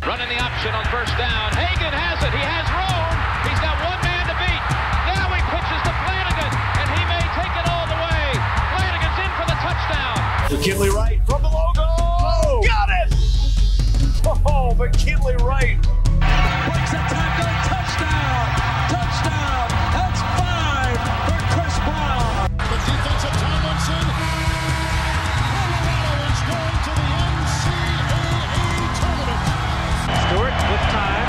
Running the option on first down. Hagan has it. He has room. He's got one man to beat. Now he pitches to Flanagan, and he may take it all the way. Flanagan's in for the touchdown. McKinley Wright from the logo. Oh, got it! Oh, McKinley Wright. Breaks a tackle. Touchdown. Touchdown. That's 5 for Chris Brown. The defense of Tomlinson. Colorado is going to the NCAA tournament. Stewart with time.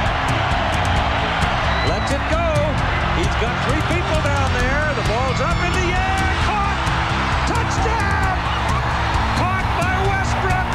Lets it go. He's got 3 people down there. The ball's up in the air. Caught. Touchdown. Caught by Westbrook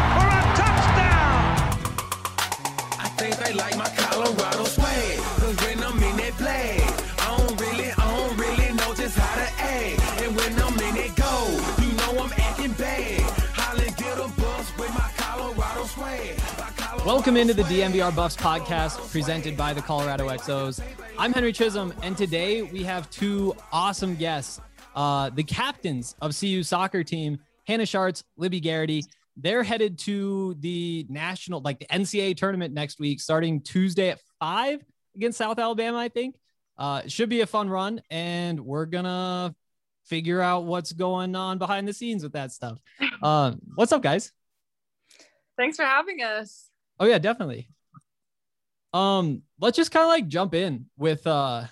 for a touchdown. I think they like my Colorado swag. Cause when I'm in that play, I don't really know just how to act. And when I'm in it go, you know I'm acting bad. Hollin' get a bus with my Colorado swag. Welcome into the DNVR Buffs podcast presented by the Colorado XOs. I'm Henry Chisholm, and today we have 2 awesome guests. The captains of CU soccer team, Hannah Schartz, Libby Garrity. They're headed to the national, the NCAA tournament next week, starting Tuesday at 5 against South Alabama, I think. It should be a fun run, and we're going to figure out what's going on behind the scenes with that stuff. What's up, guys? Thanks for having us. Oh, yeah, definitely. Let's just kind of jump in with the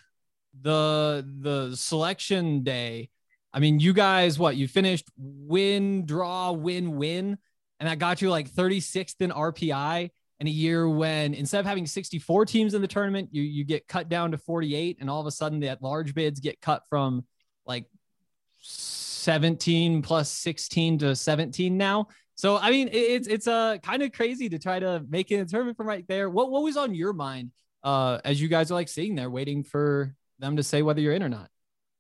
selection day. I mean, you guys, you finished win, draw, win, and that got you 36th in RPI in a year when instead of having 64 teams in the tournament, you get cut down to 48, and all of a sudden the at-large bids get cut from 17 plus 16 to 17 now. So, I mean, it's kind of crazy to try to make it a tournament from right there. What was on your mind as you guys are sitting there waiting for them to say whether you're in or not?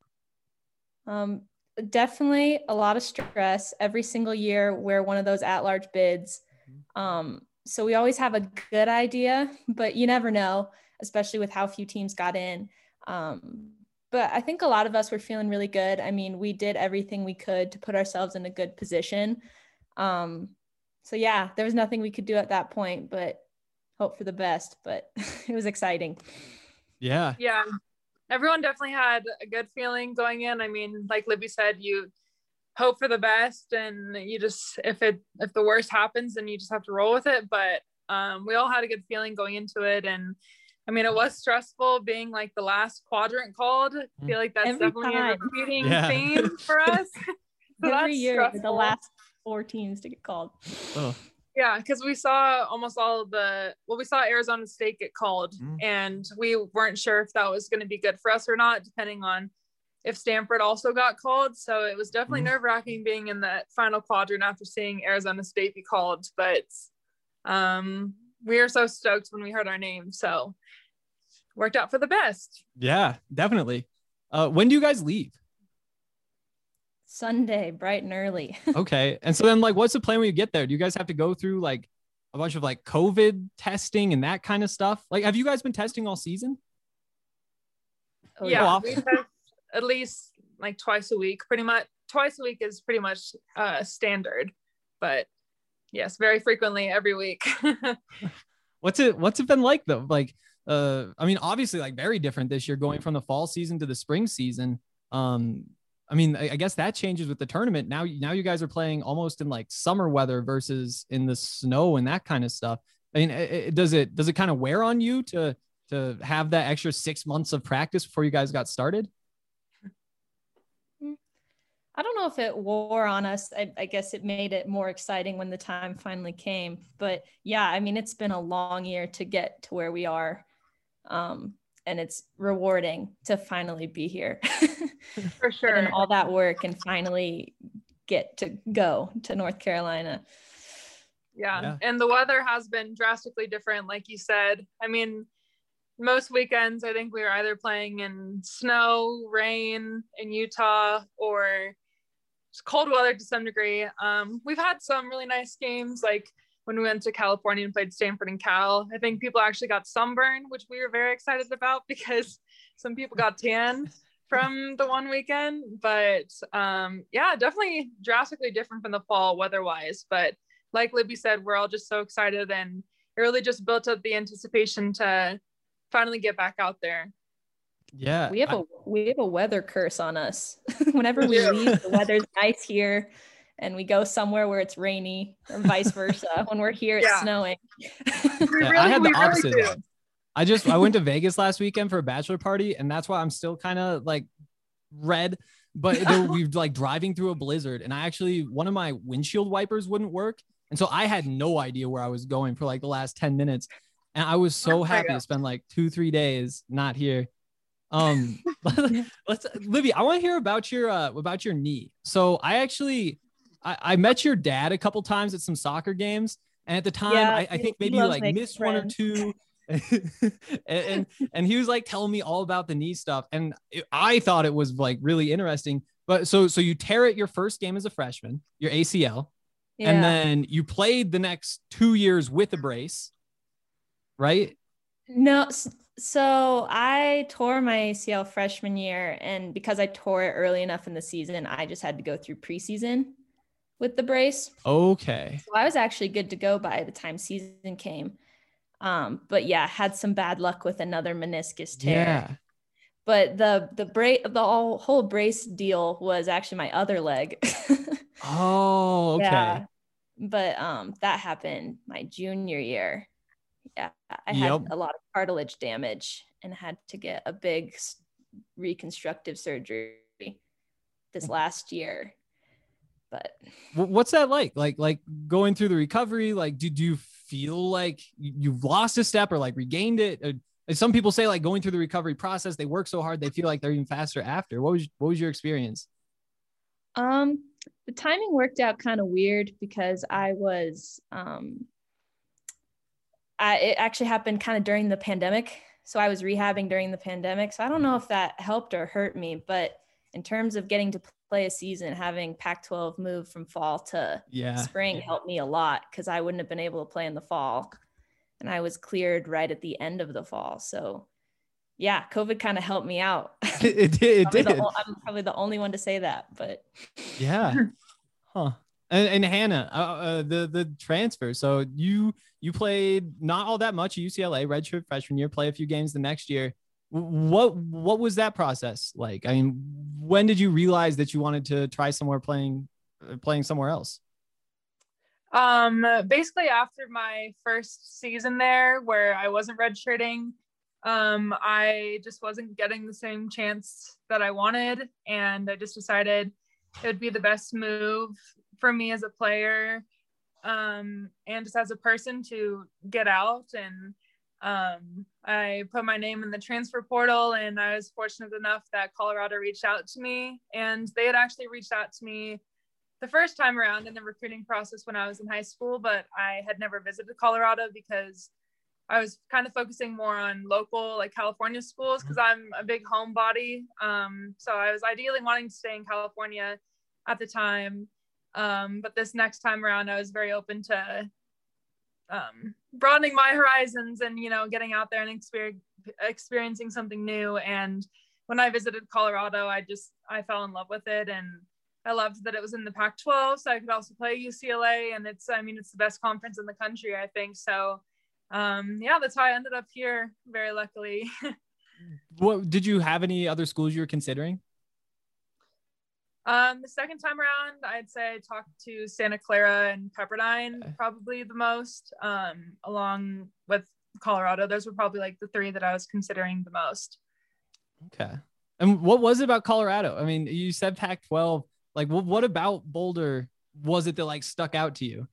Definitely a lot of stress every single year we're one of those at-large bids. So we always have a good idea, but you never know, especially with how few teams got in. But I think a lot of us were feeling really good. I mean, we did everything we could to put ourselves in a good position. So yeah, there was nothing we could do at that point, but hope for the best, but it was exciting. Yeah. Yeah. Everyone definitely had a good feeling going in. I mean, like Libby said, you hope for the best, and you just, if the worst happens, then you just have to roll with it. But, we all had a good feeling going into it. And I mean, it was stressful being the last quadrant called. I feel like that's Every definitely time. a repeating theme for us. So Every year, stressful. the last 4 teams to get called. Oh. Yeah, because we saw almost all of we saw Arizona State get called, and we weren't sure if that was going to be good for us or not, depending on if Stanford also got called. So it was definitely nerve-wracking being in that final quadrant after seeing Arizona State be called. But we were so stoked when we heard our name, so worked out for the best. Yeah, definitely. When do you guys leave? Sunday, bright and early. Okay. And so then what's the plan when you get there? Do you guys have to go through a bunch of COVID testing and that kind of stuff? Have you guys been testing all season? Yeah, we test at least twice a week, pretty much. Twice a week is pretty much standard, but yes, very frequently every week. What's it been like though? I mean, obviously very different this year going from the fall season to the spring season. I mean, I guess that changes with the tournament. Now you guys are playing almost in summer weather versus in the snow and that kind of stuff. I mean, does it kind of wear on you to have that extra 6 months of practice before you guys got started? I don't know if it wore on us. I guess it made it more exciting when the time finally came. But yeah, I mean, it's been a long year to get to where we are. And it's rewarding to finally be here. For sure. And all that work and finally get to go to North Carolina. Yeah. And the weather has been drastically different, like you said. I mean, most weekends, I think we were either playing in snow, rain in Utah, or just cold weather to some degree. We've had some really nice games, when we went to California and played Stanford and Cal. I think people actually got sunburned, which we were very excited about because some people got tan from the one weekend. But yeah, definitely drastically different from the fall weather-wise. But like Libby said, we're all just so excited, and it really just built up the anticipation to finally get back out there. Yeah. We have a weather curse on us. Whenever we leave, the weather's nice here, and we go somewhere where it's rainy, or vice versa. When we're here, it's snowing. I had the opposite. I went to Vegas last weekend for a bachelor party, and that's why I'm still kind of like red. But we were like driving through a blizzard, and one of my windshield wipers wouldn't work, and so I had no idea where I was going for like the last 10 minutes, and I was so happy to spend like 2-3 days not here. Livy, I want to hear about your knee. So I met your dad a couple times at some soccer games, and at the time I think maybe you like missed one or two. and he was like telling me all about the knee stuff, and I thought it was like really interesting. But so you tear it your first game as a freshman, your ACL, and then you played the next 2 years with a brace, right? No, so I tore my ACL freshman year, and because I tore it early enough in the season, I just had to go through preseason with the brace. Okay. So I was actually good to go by the time season came. But had some bad luck with another meniscus tear. Yeah. But the whole brace deal was actually my other leg. Oh, okay. Yeah. But that happened my junior year. Yeah, I had a lot of cartilage damage and had to get a big reconstructive surgery this last year. But what's that like? Like going through the recovery? Like, do you feel like you've lost a step or like regained it? Some people say like going through the recovery process, they work so hard they feel like they're even faster after. What was your experience? The timing worked out kind of weird because I was it actually happened kind of during the pandemic. So I was rehabbing during the pandemic. So I don't know if that helped or hurt me, but in terms of getting to play a season, having Pac-12 move from fall to spring helped me a lot because I wouldn't have been able to play in the fall. And I was cleared right at the end of the fall. So yeah, COVID kind of helped me out. It did. I'm probably the only one to say that, but yeah. Huh. And Hannah, the transfer. So you played not all that much at UCLA, redshirt freshman year, play a few games the next year. What was that process like? I mean, when did you realize that you wanted to try playing somewhere else? Basically after my first season there where I wasn't redshirting, I just wasn't getting the same chance that I wanted. And I just decided it would be the best move for me as a player, and just as a person to get out. And I put my name in the transfer portal, and I was fortunate enough that Colorado reached out to me, and they had actually reached out to me the first time around in the recruiting process when I was in high school, but I had never visited Colorado because I was kind of focusing more on local, like California schools, because I'm a big homebody. So I was ideally wanting to stay in California at the time. But this next time around, I was very open to broadening my horizons and, getting out there and experiencing something new. And when I visited Colorado, I fell in love with it. And I loved that it was in the Pac-12, so I could also play UCLA. And it's the best conference in the country, I think. So, that's how I ended up here, very luckily. What did you have any other schools you were considering? The second time around, I'd say I talked to Santa Clara and Pepperdine probably the most, along with Colorado. Those were probably like the three that I was considering the most. Okay. And what was it about Colorado? I mean, you said Pac-12, like what about Boulder was it that like stuck out to you?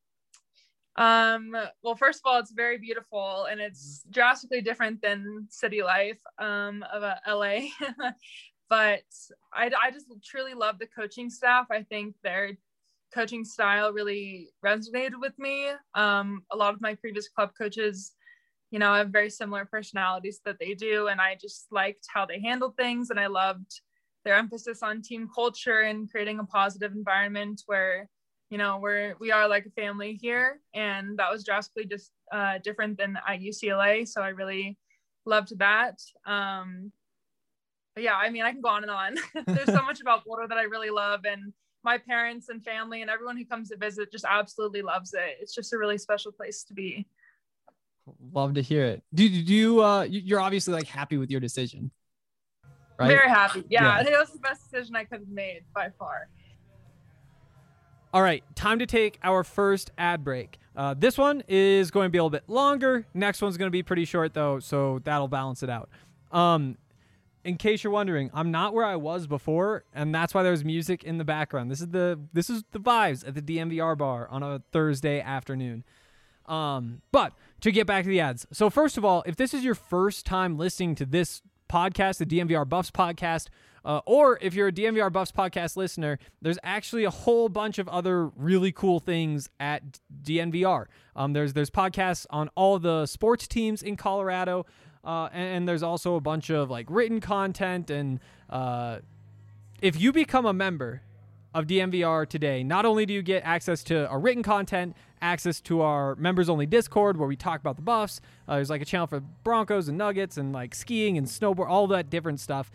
Well, first of all, it's very beautiful and it's drastically different than city life, of LA. But I just truly love the coaching staff. I think their coaching style really resonated with me. A lot of my previous club coaches, have very similar personalities that they do. And I just liked how they handled things. And I loved their emphasis on team culture and creating a positive environment where, we are like a family here. And that was drastically just different than at UCLA. So I really loved that. But yeah, I can go on and on. There's so much about Boulder that I really love. And my parents and family and everyone who comes to visit just absolutely loves it. It's just a really special place to be. Love to hear it. Do you you're obviously like happy with your decision, right? Very happy. Yeah, I think that was the best decision I could have made by far. All right, time to take our first ad break. This one is going to be a little bit longer. Next one's going to be pretty short, though, so that'll balance it out. In case you're wondering, I'm not where I was before, and that's why there's music in the background. This is the vibes at the DNVR bar on a Thursday afternoon. But to get back to the ads. So first of all, if this is your first time listening to this podcast, the DNVR Buffs podcast, or if you're a DNVR Buffs podcast listener, there's actually a whole bunch of other really cool things at DNVR. There's podcasts on all the sports teams in Colorado, and there's also a bunch of like written content. And if you become a member of DNVR today, not only do you get access to our written content, access to our members only Discord where we talk about the Buffs. There's like a channel for Broncos and Nuggets and like skiing and snowboard, all that different stuff.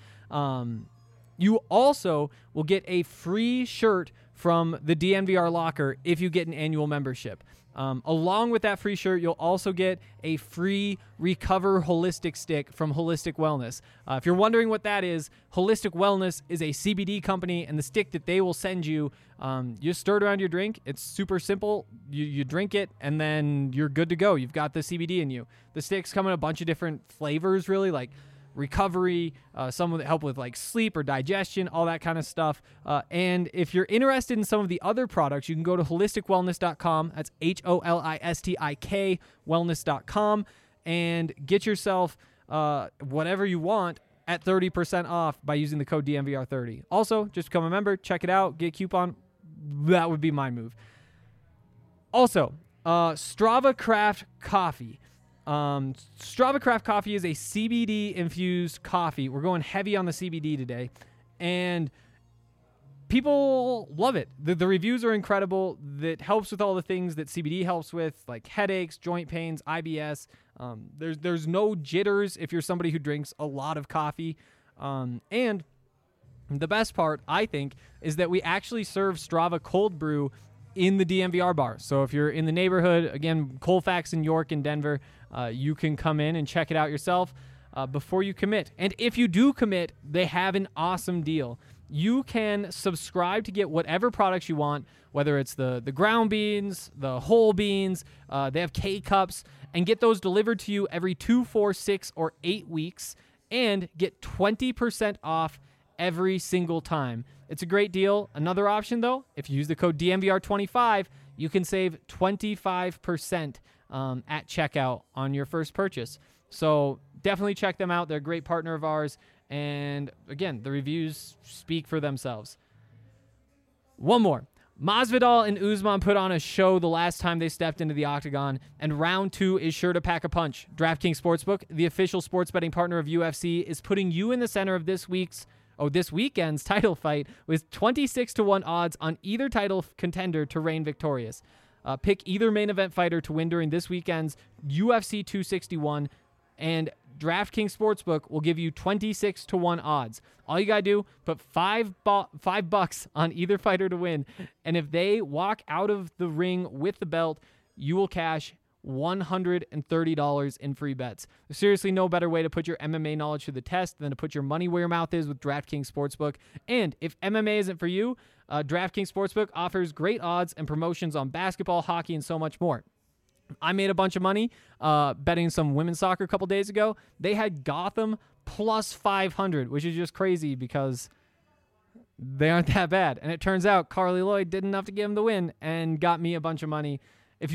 You also will get a free shirt from the DNVR locker if you get an annual membership. Along with that free shirt, you'll also get a free Recover Holistic stick from Holistic Wellness. If you're wondering what that is, Holistic Wellness is a CBD company, and the stick that they will send you, you stir it around your drink. It's super simple. You drink it, and then you're good to go. You've got the CBD in you. The sticks come in a bunch of different flavors, really, like recovery, some that help with like sleep or digestion, all that kind of stuff. And if you're interested in some of the other products, you can go to holisticwellness.com. That's HOLISTIK wellness.com and get yourself whatever you want at 30% off by using the code DNVR30. Also, just become a member, check it out, get a coupon. That would be my move. Also, Strava Craft Coffee. Strava Craft Coffee is a CBD infused coffee. We're going heavy on the CBD today, and people love it. The reviews are incredible. That helps with all the things that CBD helps with, like headaches, joint pains, IBS. There's no jitters if you're somebody who drinks a lot of coffee. And the best part, I think, is that we actually serve Strava cold brew in the DNVR bar. So if you're in the neighborhood, again, Colfax in York and Denver, you can come in and check it out yourself before you commit. And if you do commit, they have an awesome deal. You can subscribe to get whatever products you want, whether it's the ground beans, the whole beans, they have K-Cups, and get those delivered to you every 2, 4, 6, or 8 weeks, and get 20% off every single time. It's a great deal. Another option, though, if you use the code DNVR25, you can save 25% at checkout on your first purchase. So definitely check them out. They're a great partner of ours. And again, the reviews speak for themselves. One more. Masvidal and Usman put on a show the last time they stepped into the octagon, and round 2 is sure to pack a punch. DraftKings Sportsbook, the official sports betting partner of UFC, is putting you in the center of this weekend's title fight with 26-1 odds on either title contender to reign victorious. Pick either main event fighter to win during this weekend's UFC 261, and DraftKings Sportsbook will give you 26-1 odds. All you gotta do, put $5 on either fighter to win, and if they walk out of the ring with the belt, you will cash $130 in free bets. There's seriously no better way to put your MMA knowledge to the test than to put your money where your mouth is with DraftKings Sportsbook. And if MMA isn't for you, DraftKings Sportsbook offers great odds and promotions on basketball, hockey, and so much more. I made a bunch of money betting some women's soccer a couple days ago. They had Gotham plus 500, which is just crazy because they aren't that bad. And it turns out Carly Lloyd did enough to give them the win and got me a bunch of money. If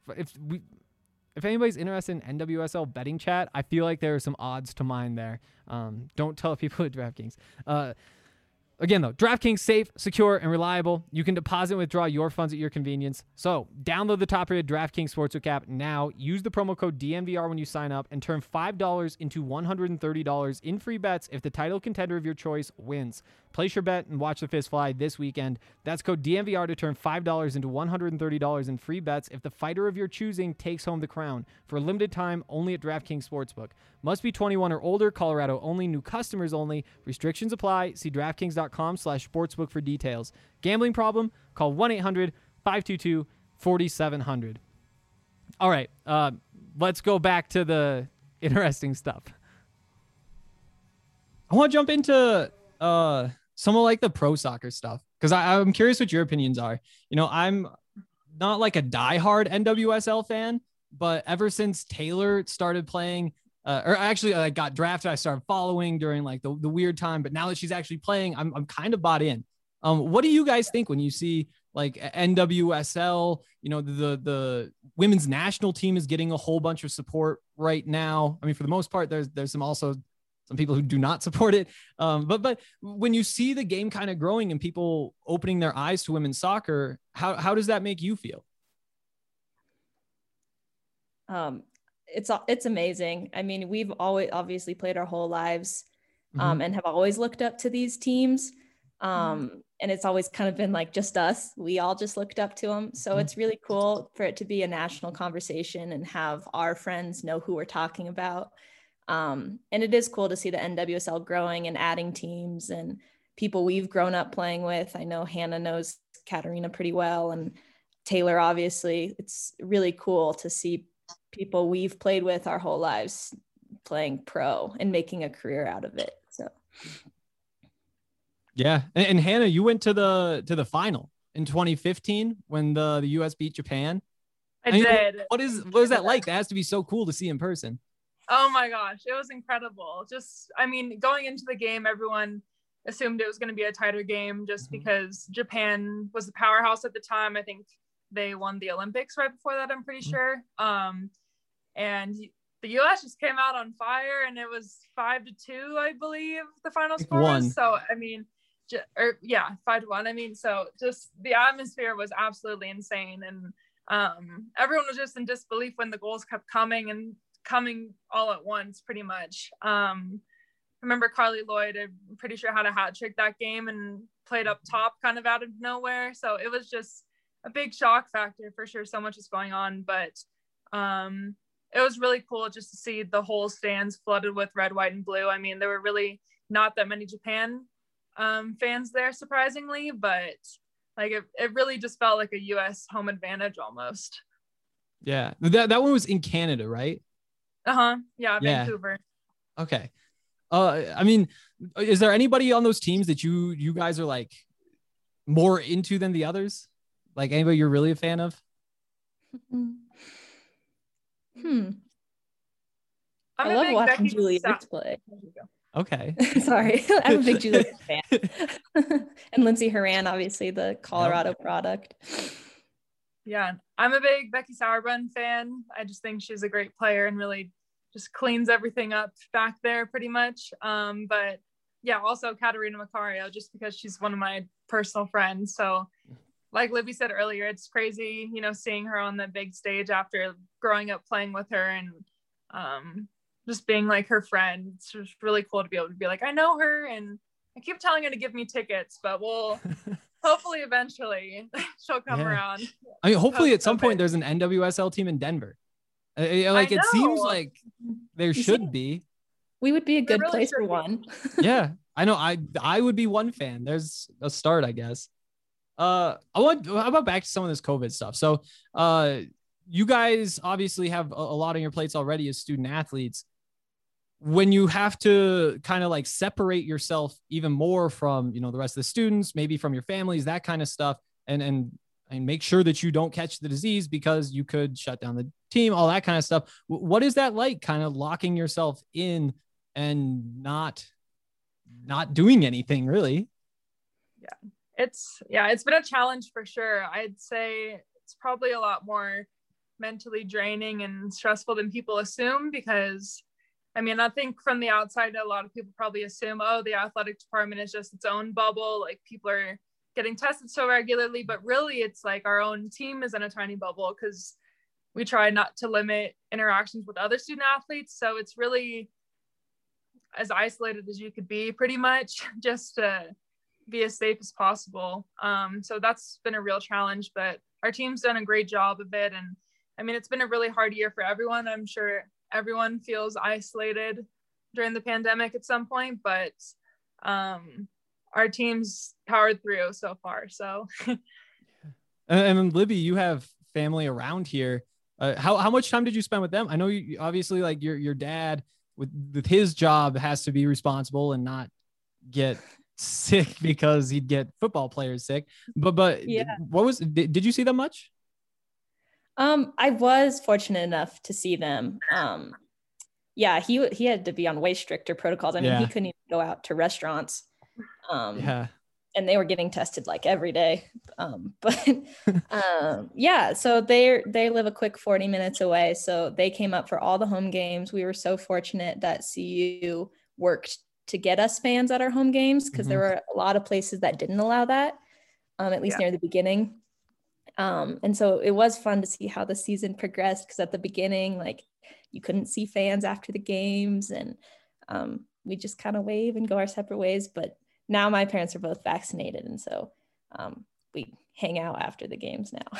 anybody's interested in NWSL betting chat, I feel like there are some odds to mine there. Don't tell people at DraftKings. Again, though, DraftKings safe, secure, and reliable. You can deposit and withdraw your funds at your convenience. So download the top-rated DraftKings Sportsbook app now. Use the promo code DNVR when you sign up and turn $5 into $130 in free bets if the title contender of your choice wins. Place your bet and watch the fist fly this weekend. That's code DNVR to turn $5 into $130 in free bets if the fighter of your choosing takes home the crown. For a limited time, only at DraftKings Sportsbook. Must be 21 or older. Colorado only. New customers only. Restrictions apply. See DraftKings.com/sportsbook for details. Gambling problem? Call 1-800-522-4700. All right. let's go back to the interesting stuff. I want to jump into some of like the pro soccer stuff because I'm curious what your opinions are. You know, I'm not like a diehard NWSL fan, but ever since Taylor started playing, or actually I got drafted, I started following during like the weird time. But now that she's actually playing, I'm kind of bought in. What do you guys think when you see like NWSL? You know, the women's national team is getting a whole bunch of support right now. I mean, for the most part, there's some people who do not support it. But when you see the game kind of growing and people opening their eyes to women's soccer, how does that make you feel? It's amazing. I mean, we've always obviously played our whole lives, and have always looked up to these teams. And it's always kind of been like just us. We all just looked up to them. So it's really cool for it to be a national conversation and have our friends know who we're talking about. And it is cool to see the NWSL growing and adding teams and people we've grown up playing with. I know Hannah knows Katarina pretty well, and Taylor, obviously. It's really cool to see people we've played with our whole lives playing pro and making a career out of it. So yeah. And Hannah, you went to the final in 2015 when the US beat Japan. I did. What is that like? That has to be so cool to see in person. Oh my gosh, it was incredible. Just, I mean, going into the game, everyone assumed it was going to be a tighter game just because Japan was the powerhouse at the time. I think they won the Olympics right before that, I'm pretty sure. And the US just came out on fire, and it was 5-2, I believe the final score was. So, I mean, 5-1. I mean, so just the atmosphere was absolutely insane. And everyone was just in disbelief when the goals kept coming all at once, pretty much. Remember Carly Lloyd, I'm pretty sure, had a hat trick that game and played up top kind of out of nowhere. So it was just a big shock factor for sure. So much is going on, but it was really cool just to see the whole stands flooded with red, white, and blue. I mean, there were really not that many Japan fans there, surprisingly, but like it really just felt like a US home advantage almost. Yeah, that one was in Canada, right? Yeah, Vancouver. Okay. I mean, is there anybody on those teams that you guys are like more into than the others? Like anybody you're really a fan of? I love watching Julie play. Okay. Sorry. I'm a big Julie fan. And Lindsay Horan, obviously the Colorado product. Yeah, I'm a big Becky Sauerbrunn fan. I just think she's a great player and really just cleans everything up back there pretty much. But yeah, also Katarina Macario, just because she's one of my personal friends. So like Libby said earlier, it's crazy, you know, seeing her on the big stage after growing up playing with her and just being like her friend. It's just really cool to be able to be like, I know her, and I keep telling her to give me tickets, but we'll hopefully eventually she'll come around. I mean, hopefully at some point there's an NWSL team in Denver. Like it seems like there should be. We would be a good place for one. Yeah, I know. I would be one fan. There's a start, I guess. How about back to some of this COVID stuff? So you guys obviously have a lot on your plates already as student athletes. When you have to kind of like separate yourself even more from, you know, the rest of the students, maybe from your families, that kind of stuff, and make sure that you don't catch the disease because you could shut down the team, all that kind of stuff. What is that like, kind of locking yourself in and not doing anything really? It's been a challenge for sure. I'd say it's probably a lot more mentally draining and stressful than people assume, because I mean, I think from the outside, a lot of people probably assume, oh, the athletic department is just its own bubble. Like people are getting tested so regularly, but really it's like our own team is in a tiny bubble because we try not to limit interactions with other student athletes. So it's really as isolated as you could be, pretty much, just to be as safe as possible. So that's been a real challenge, but our team's done a great job of it. And I mean, it's been a really hard year for everyone. I'm sure everyone feels isolated during the pandemic at some point, but our team's powered through so far. So, and Libby, you have family around here. How much time did you spend with them? I know you obviously like your dad with his job has to be responsible and not get sick because he'd get football players sick. But Yeah. Did you see them much? I was fortunate enough to see them. Yeah, he had to be on way stricter protocols. I mean, he couldn't even go out to restaurants. And they were getting tested like every day. Yeah, so they live a quick 40 minutes away. So they came up for all the home games. We were so fortunate that CU worked to get us fans at our home games because there were a lot of places that didn't allow that, at least near the beginning. And so it was fun to see how the season progressed because at the beginning, like you couldn't see fans after the games and we just kind of wave and go our separate ways. But now my parents are both vaccinated. And so we hang out after the games now.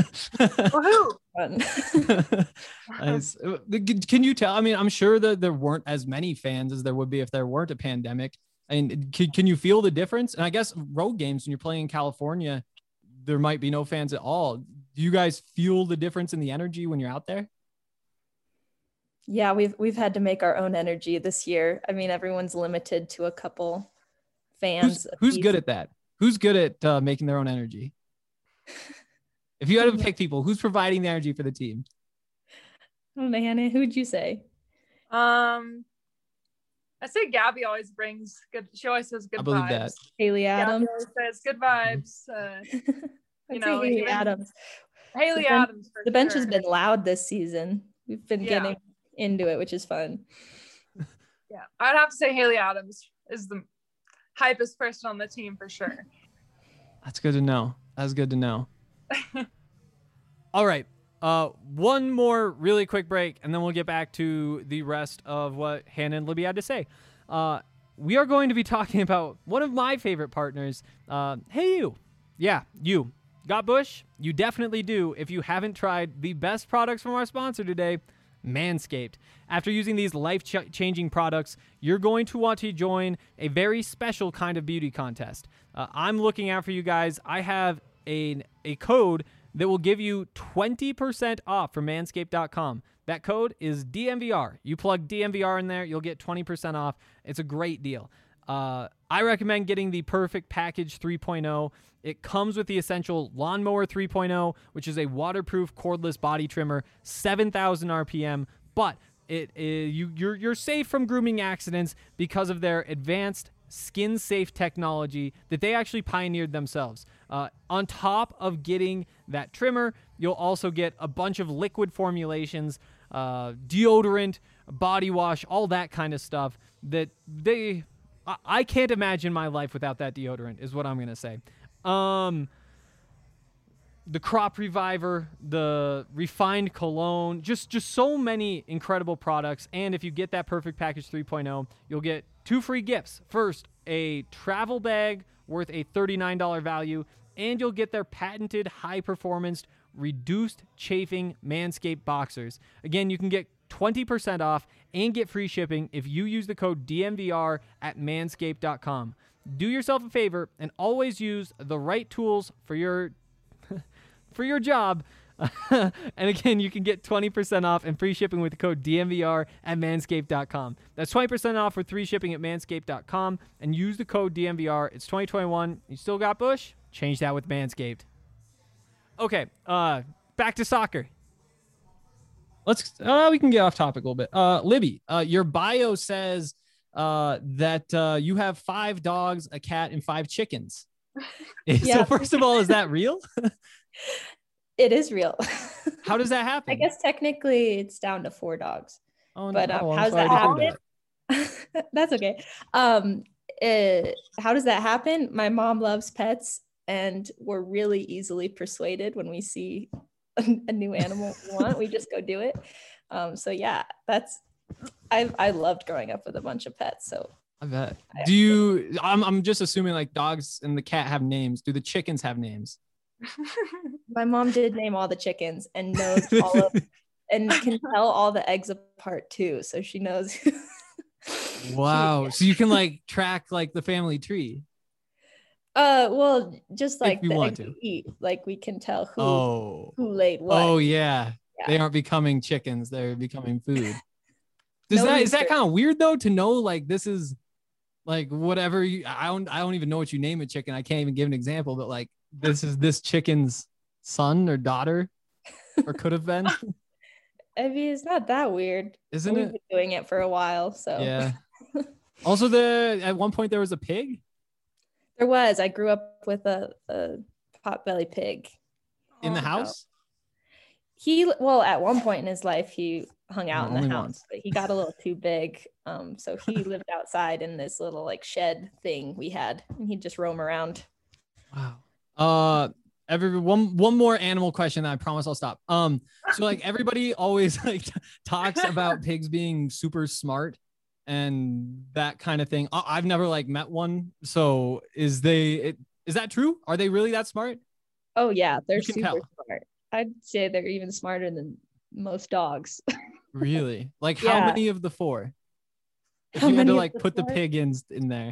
Nice. Can you tell? I mean, I'm sure that there weren't as many fans as there would be if there weren't a pandemic. And can you feel the difference? And I guess road games when you're playing in California, there might be no fans at all. Do you guys feel the difference in the energy when you're out there? Yeah, we've had to make our own energy this year. I mean, everyone's limited to a couple fans. Who's good at that? Who's good at making their own energy? If you had to pick people, who's providing the energy for the team? Oh, Hannah, who'd you say? I say Gabby always brings good. She always says good vibes. I believe that. Haley Adams always says good vibes. You know, Haley Adams. Haley Adams. The bench has been loud this season. We've been getting into it, which is fun. Yeah, I'd have to say Haley Adams is the hypest person on the team for sure. That's good to know. That's good to know. All right. One more really quick break, and then we'll get back to the rest of what Hannah and Libby had to say. We are going to be talking about one of my favorite partners. Hey, you. Yeah, you. Got Bush? You definitely do if you haven't tried the best products from our sponsor today, Manscaped. After using these life-changing products, you're going to want to join a very special kind of beauty contest. I'm looking out for you guys. I have a code that will give you 20% off from manscaped.com. That code is DMVR. You plug DMVR in there, you'll get 20% off. It's a great deal. I recommend getting the Perfect Package 3.0. It comes with the Essential Lawnmower 3.0, which is a waterproof cordless body trimmer, 7,000 RPM, but you're safe from grooming accidents because of their advanced skin-safe technology that they actually pioneered themselves. On top of getting that trimmer, you'll also get a bunch of liquid formulations, deodorant, body wash, all that kind of stuff that I can't imagine my life without that deodorant is what I'm going to say. The Crop Reviver, the Refined Cologne, just so many incredible products. And if you get that Perfect Package 3.0, you'll get 2 free gifts. First, a travel bag worth a $39 value, and you'll get their patented high-performance, reduced chafing Manscaped boxers. Again, you can get 20% off and get free shipping if you use the code DMVR at manscaped.com. Do yourself a favor and always use the right tools for your job. And again, you can get 20% off and free shipping with the code DMVR at manscaped.com. That's 20% off with free shipping at manscaped.com and use the code DMVR. It's 2021. You still got Bush? Change that with Manscaped. Okay, back to soccer. We can get off topic a little bit. Libby, your bio says that you have 5 dogs, a cat, and 5 chickens. So first of all, is that real? It is real. How does that happen? I guess technically it's down to 4 dogs. Oh, but no. How does that happen? That's okay. How does that happen? My mom loves pets, and we're really easily persuaded when we see a new animal we want. We just go do it. So yeah, I loved growing up with a bunch of pets. So I bet. I'm just assuming like dogs and the cat have names. Do the chickens have names? My mom did name all the chickens and knows all of, and can tell all the eggs apart too. So she knows. Wow. Yeah. So you can like track like the family tree. Well, just like the eggs we eat, like we can tell who laid what. Oh yeah. They aren't becoming chickens. They're becoming food. No Is that research. kind of weird though, to know like this is like whatever I don't even know what you name a chicken. I can't even give an example, but like this is this chicken's son or daughter or could have been. I mean, it's not that weird. Isn't We've it? been doing it for a while, so Yeah. Also, at one point there was a pig there was. I grew up with a potbelly pig. in the house. Well, at one point in his life, he hung out in Only the house, once. but he got a little too big. So he lived outside in this little like shed thing we had, and he'd just roam around. Wow. One more animal question, and I promise I'll stop. So like everybody always like talks about pigs being super smart and that kind of thing. I've never like met one. So is that true? Are they really that smart? Oh yeah, they're You can super tell. smart. I'd say they're even smarter than most dogs. Really? Like how Yeah. many of the four? If How you had to many of like the put the four? pig in there.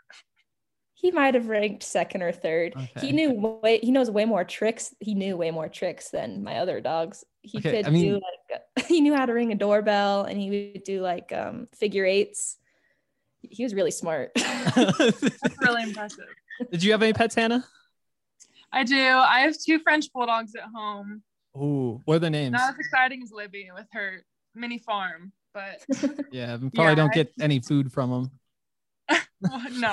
He might have ranked second or third. Okay. He knows way more tricks. He knew way more tricks than my other dogs. He Okay, could I mean- do like he knew how to ring a doorbell, and he would do like figure eights. He was really smart. That's really impressive. Did you have any pets, Hannah? I do. I have 2 French bulldogs at home. Ooh, what are the names? Not as exciting as Libby with her mini farm, but Yeah, we probably don't get any food from them. no.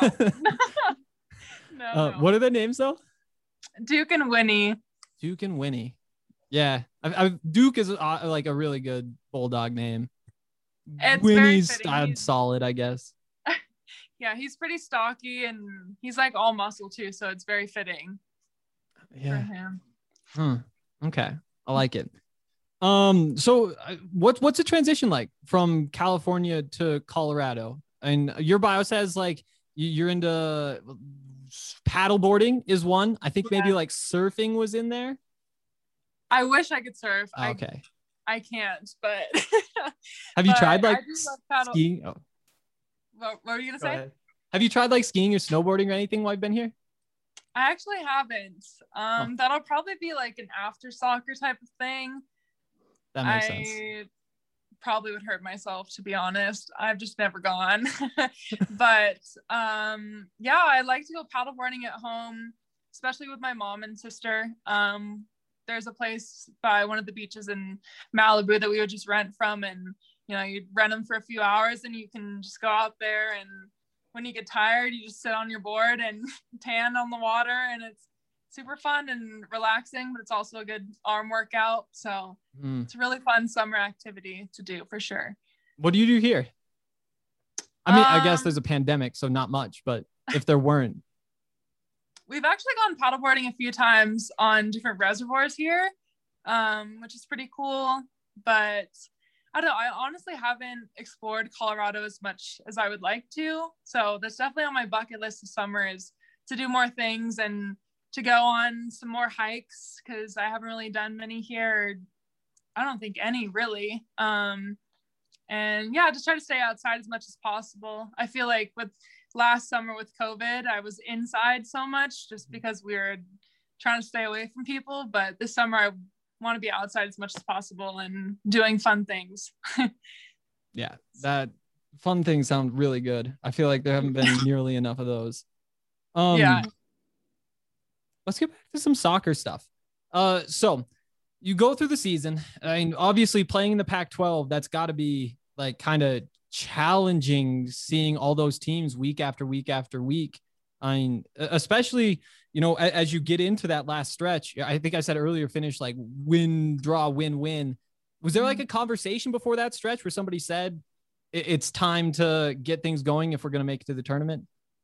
No, no. What are their names though? Duke and Winnie. Duke and Winnie. Yeah, Duke is like a really good bulldog name. It's very Winnie's fitting. solid, I guess. Yeah, he's pretty stocky and he's like all muscle too, so it's very fitting for Yeah. him. Okay, I like it. So what's the transition like from California to Colorado? And your bio says like you're into paddle boarding is one. I think maybe Yeah. like surfing was in there. I wish I could surf. Okay. I can't, but Have you but tried like I do love paddle- skiing? Oh, What were you gonna go say? ahead. Have you tried like skiing or snowboarding or anything while I've been here? I actually haven't. That'll probably be like an after soccer type of thing. That makes I sense. probably would hurt myself, to be honest. I've just never gone. But yeah, I like to go paddleboarding at home, especially with my mom and sister. There's a place by one of the beaches in Malibu that we would just rent from, and you'd rent them for a few hours and you can just go out there, and when you get tired, you just sit on your board and tan on the water, and it's super fun and relaxing, but it's also a good arm workout. So it's a really fun summer activity to do for sure. What do you do here? I mean, I guess there's a pandemic, so not much, but if there weren't. We've actually gone paddleboarding a few times on different reservoirs here, which is pretty cool. But I don't know, I honestly haven't explored Colorado as much as I would like to. So that's definitely on my bucket list this summer, is to do more things and to go on some more hikes, because I haven't really done many here. I don't think any really. And yeah, just try to stay outside as much as possible. I feel like with last summer with COVID, I was inside so much just because we were trying to stay away from people. But this summer, I want to be outside as much as possible and doing fun things. Yeah, that fun things sound really good. I feel like there haven't been nearly enough of those. Yeah. Let's get back to some soccer stuff. So you go through the season. I mean, obviously playing in the Pac-12, that's got to be like kind of challenging, seeing all those teams week after week after week. I mean, especially, as you get into that last stretch, I think I said earlier, finish like win, draw, win, win. Was there like a conversation before that stretch where somebody said it's time to get things going if we're going to make it to the tournament?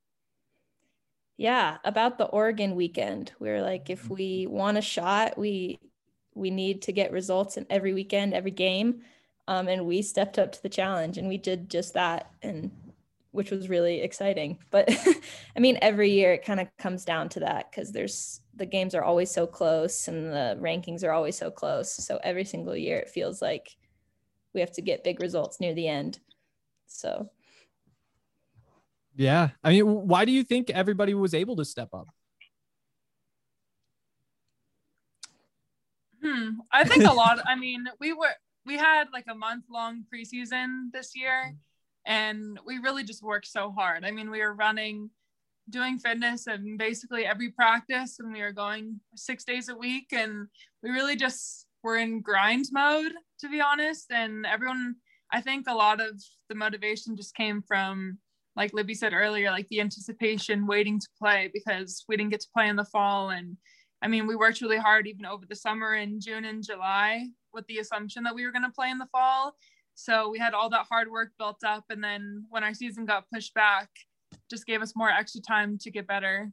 Yeah, about the Oregon weekend. We were like, if we want a shot, we need to get results in every weekend, every game. And we stepped up to the challenge and we did just that, and which was really exciting. But I mean, every year it kind of comes down to that, because the games are always so close and the rankings are always so close. So every single year it feels like we have to get big results near the end. So yeah, I mean, why do you think everybody was able to step up? I think a lot. I mean, we had like a month-long preseason this year, and we really just worked so hard. I mean, we were doing fitness and basically every practice, and we were going 6 days a week, and we really just were in grind mode, to be honest. And everyone, I think a lot of the motivation just came from, like Libby said earlier, like the anticipation, waiting to play, because we didn't get to play in the fall. And I mean, we worked really hard even over the summer in June and July with the assumption that we were going to play in the fall. So we had all that hard work built up. And then when our season got pushed back, just gave us more extra time to get better.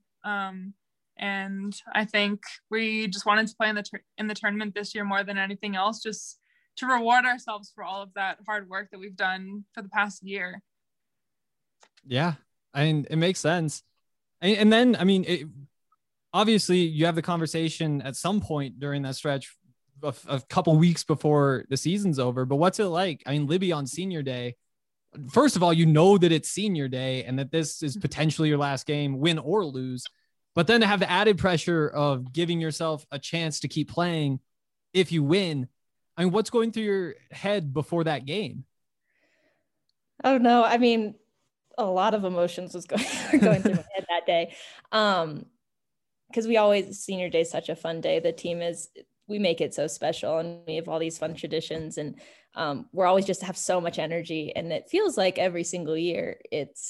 And I think we just wanted to play in the tournament this year more than anything else, just to reward ourselves for all of that hard work that we've done for the past year. Yeah, I mean, it makes sense. And then, I mean, obviously you have the conversation at some point during that stretch of a couple weeks before the season's over, but what's it like? I mean, Libby, on senior day, first of all, you know that it's senior day and that this is potentially your last game, win or lose, but then to have the added pressure of giving yourself a chance to keep playing if you win. I mean, what's going through your head before that game? Oh no, I mean, a lot of emotions was going through my head that day. Because senior day is such a fun day. The team we make it so special, and we have all these fun traditions, and we're always just have so much energy. And it feels like every single year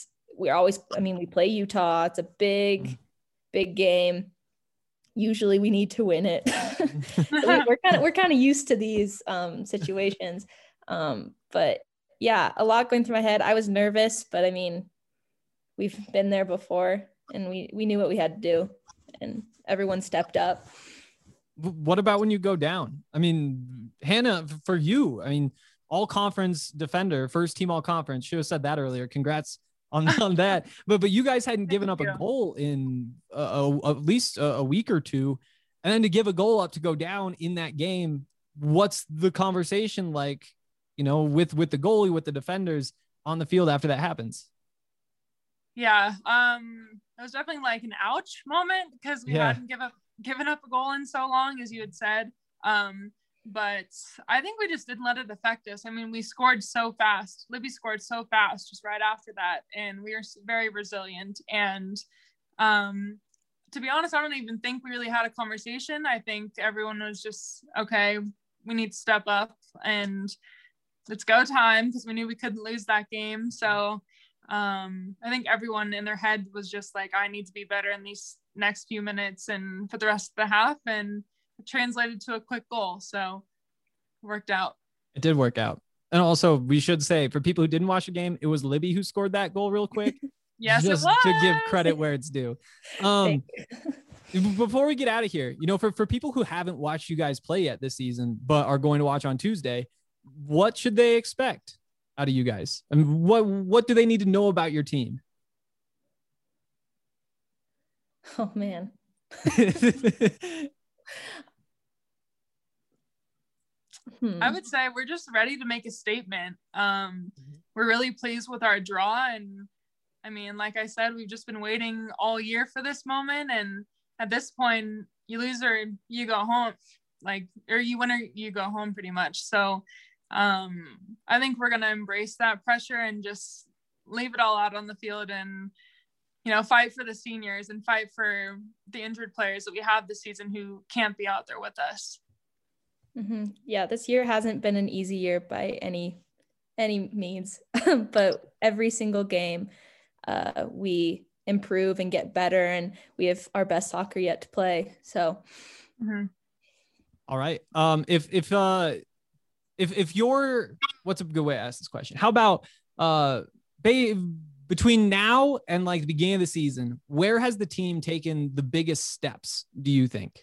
we play Utah. It's a big game. Usually we need to win it. we're kind of used to these situations. But yeah, a lot going through my head. I was nervous, but I mean, we've been there before, and we knew what we had to do, and everyone stepped up. What about when you go down? I mean, Hannah, for you, I mean, all conference defender, first team all conference, should have said that earlier. Congrats on that. But you guys hadn't given up a goal in at least a week or two. And then to give a goal up to go down in that game, what's the conversation like, you know, with the goalie, with the defenders on the field after that happens? Yeah. It was definitely like an ouch moment, because we hadn't given up a goal in so long, as you had said. But I think we just didn't let it affect us. I mean, we scored so fast. Libby scored so fast just right after that, and we were very resilient. And to be honest, I don't even think we really had a conversation. I think everyone was just, okay, we need to step up and it's go time, because we knew we couldn't lose that game. So I think everyone in their head was just like, I need to be better in these next few minutes and for the rest of the half, and it translated to a quick goal. So it worked out. It did work out. And also, we should say, for people who didn't watch the game, it was Libby who scored that goal real quick. Yes, just it was. To give credit where it's due. Before we get out of here, you know, for people who haven't watched you guys play yet this season, but are going to watch on Tuesday, what should they expect out of you guys? I mean, what do they need to know about your team? Oh man. I would say we're just ready to make a statement. We're really pleased with our draw, and I mean, like I said, we've just been waiting all year for this moment, and at this point, you lose or you go home, or you win or you go home, pretty much. So I think we're going to embrace that pressure and just leave it all out on the field, and you know, fight for the seniors and fight for the injured players that we have this season who can't be out there with us. Mm-hmm. Yeah, this year hasn't been an easy year by any means, but every single game we improve and get better, and we have our best soccer yet to play. So, all right. If you're, what's a good way to ask this question? How about between now and like the beginning of the season, where has the team taken the biggest steps, do you think?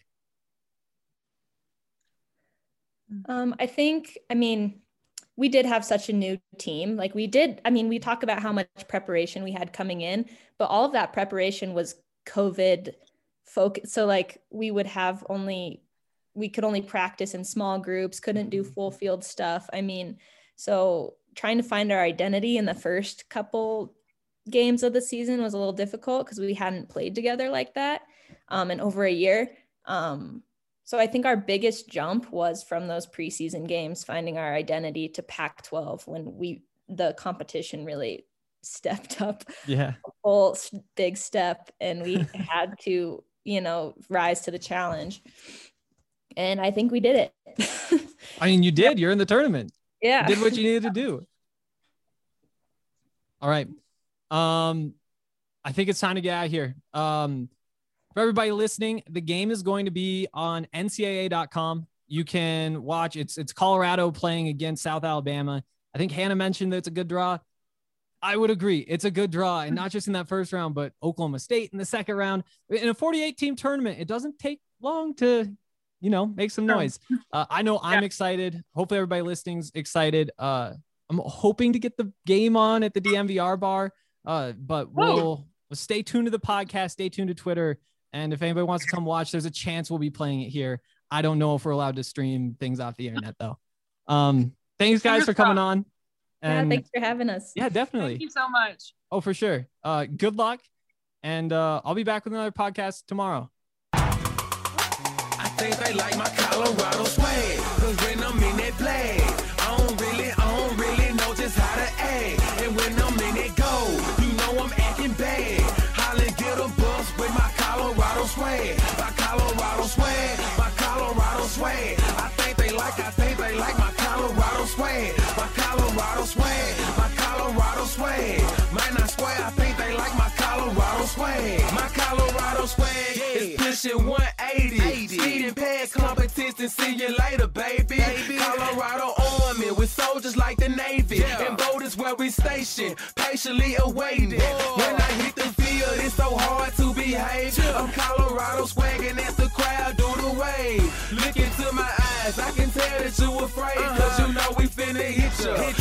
I mean, we did have such a new team. Like we talk about how much preparation we had coming in, but all of that preparation was COVID focused. So like we could only practice in small groups, couldn't do full field stuff. I mean, so trying to find our identity in the first couple games of the season was a little difficult because we hadn't played together like that in over a year. So I think our biggest jump was from those preseason games, finding our identity, to Pac-12 when the competition really stepped up. Yeah. A whole big step, and we had to, rise to the challenge. And I think we did it. I mean, you did. You're in the tournament. Yeah. You did what you needed to do. All right. I think it's time to get out of here. For everybody listening, the game is going to be on NCAA.com. You can watch. It's Colorado playing against South Alabama. I think Hannah mentioned that it's a good draw. I would agree. It's a good draw, and not just in that first round, but Oklahoma State in the second round. In a 48-team tournament, it doesn't take long to, make some noise. I know I'm excited. Hopefully everybody listening's excited. I'm hoping to get the game on at the DMVR bar, but we'll stay tuned to the podcast, stay tuned to Twitter. And if anybody wants to come watch, there's a chance we'll be playing it here. I don't know if we're allowed to stream things off the internet though. Thanks guys for coming on. And thanks for having us. Yeah, definitely. Thank you so much. Oh, for sure. Good luck. And I'll be back with another podcast tomorrow. I think they like my Colorado swag, 'cause when I'm in that play, I don't really know just how to act. And when I'm in that go, I'm acting bad. Holly get a bus with my Colorado swag. My Colorado swag, my Colorado swag. I think they like my Colorado swag. My Colorado swag, my Colorado swag. Man, I swear I think they like my Colorado swag. My Colorado swag is pushing 180. Speeding past competition, see you later, baby. Colorado Army with soldiers like the Navy. And boat is where we station, patiently awaiting. When I hit the field, it's so hard to behave. I'm Colorado swagging as the crowd do the wave. Look into my eyes, I can tell that you afraid. 'Cause we finna hit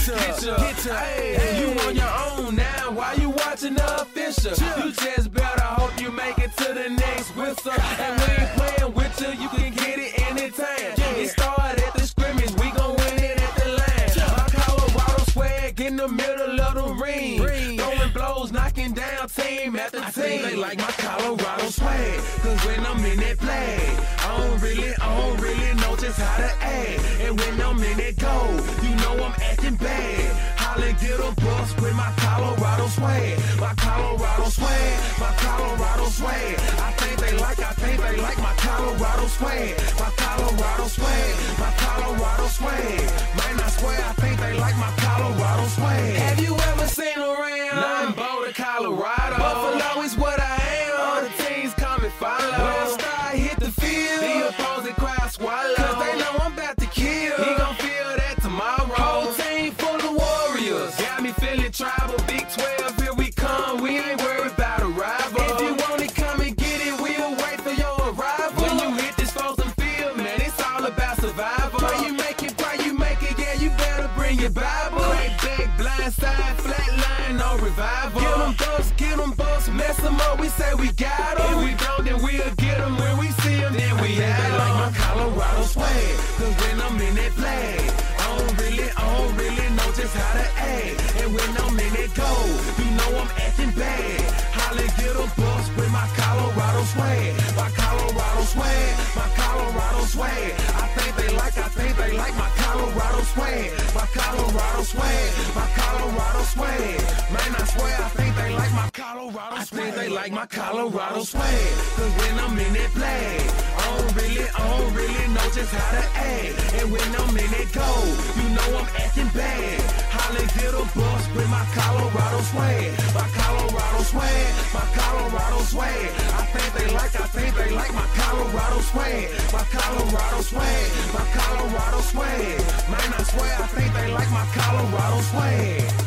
ya. Hey, you on your own now, why you watching the official? You just better hope you make it to the next whistle. And we ain't playing with you, you can get it anytime. It started at the scrimmage, we gon' win it at the line. My Colorado swag in the middle of the ring. Throwing blows, knocking down team after team. I think they like my Colorado swag, 'cause when I'm in that play, I don't really know just how to act. And when I'm in that go, I'm acting bad. Holly get a bus with my Colorado swag. My Colorado swag, my Colorado swag. I think they like my Colorado swag. My Colorado swag, my Colorado swag. Man, I swear I think they like my Colorado swag. Have you ever seen around? Nothing Boulder, Colorado. Buffalo is what I am. All the teams come and follow. When I start hit the field, the opposing crowd swallow. 'Cause they know I'm about to kill. He gon' feel that tomorrow. Whole team full of warriors. Got me feeling tribal. Big 12, here we come. We ain't worried about a rival. If you want it, come and get it. We'll wait for your arrival. When you hit this frozen field, man, it's all about survival. Pray you make it, yeah, you better bring your Bible. Crack back, blind side, flat line, no revival. Get them bucks, mess them up, we say we got them. If we don't, then we'll get them. When we see them, then we have them. Like my Colorado swag, 'cause when I'm in that play, I don't really know just how to act. And when I'm in that go, I'm acting bad. Holly get a bus with my Colorado swag. My Colorado swag, my Colorado swag. I think they like my Colorado swag. My Colorado swag, my Colorado swag. Man, I swear I think they like my Colorado swag. I think they like my Colorado swag. 'Cause when I'm in that play, I don't really know just how to act. And when I'm in that go, I'm acting bad. Holly get a bus with my Colorado swag. My Colorado swag, my Colorado swag. I think they like my Colorado swag. My Colorado swag, my Colorado swag. Man, I swear I think they like my Colorado swag.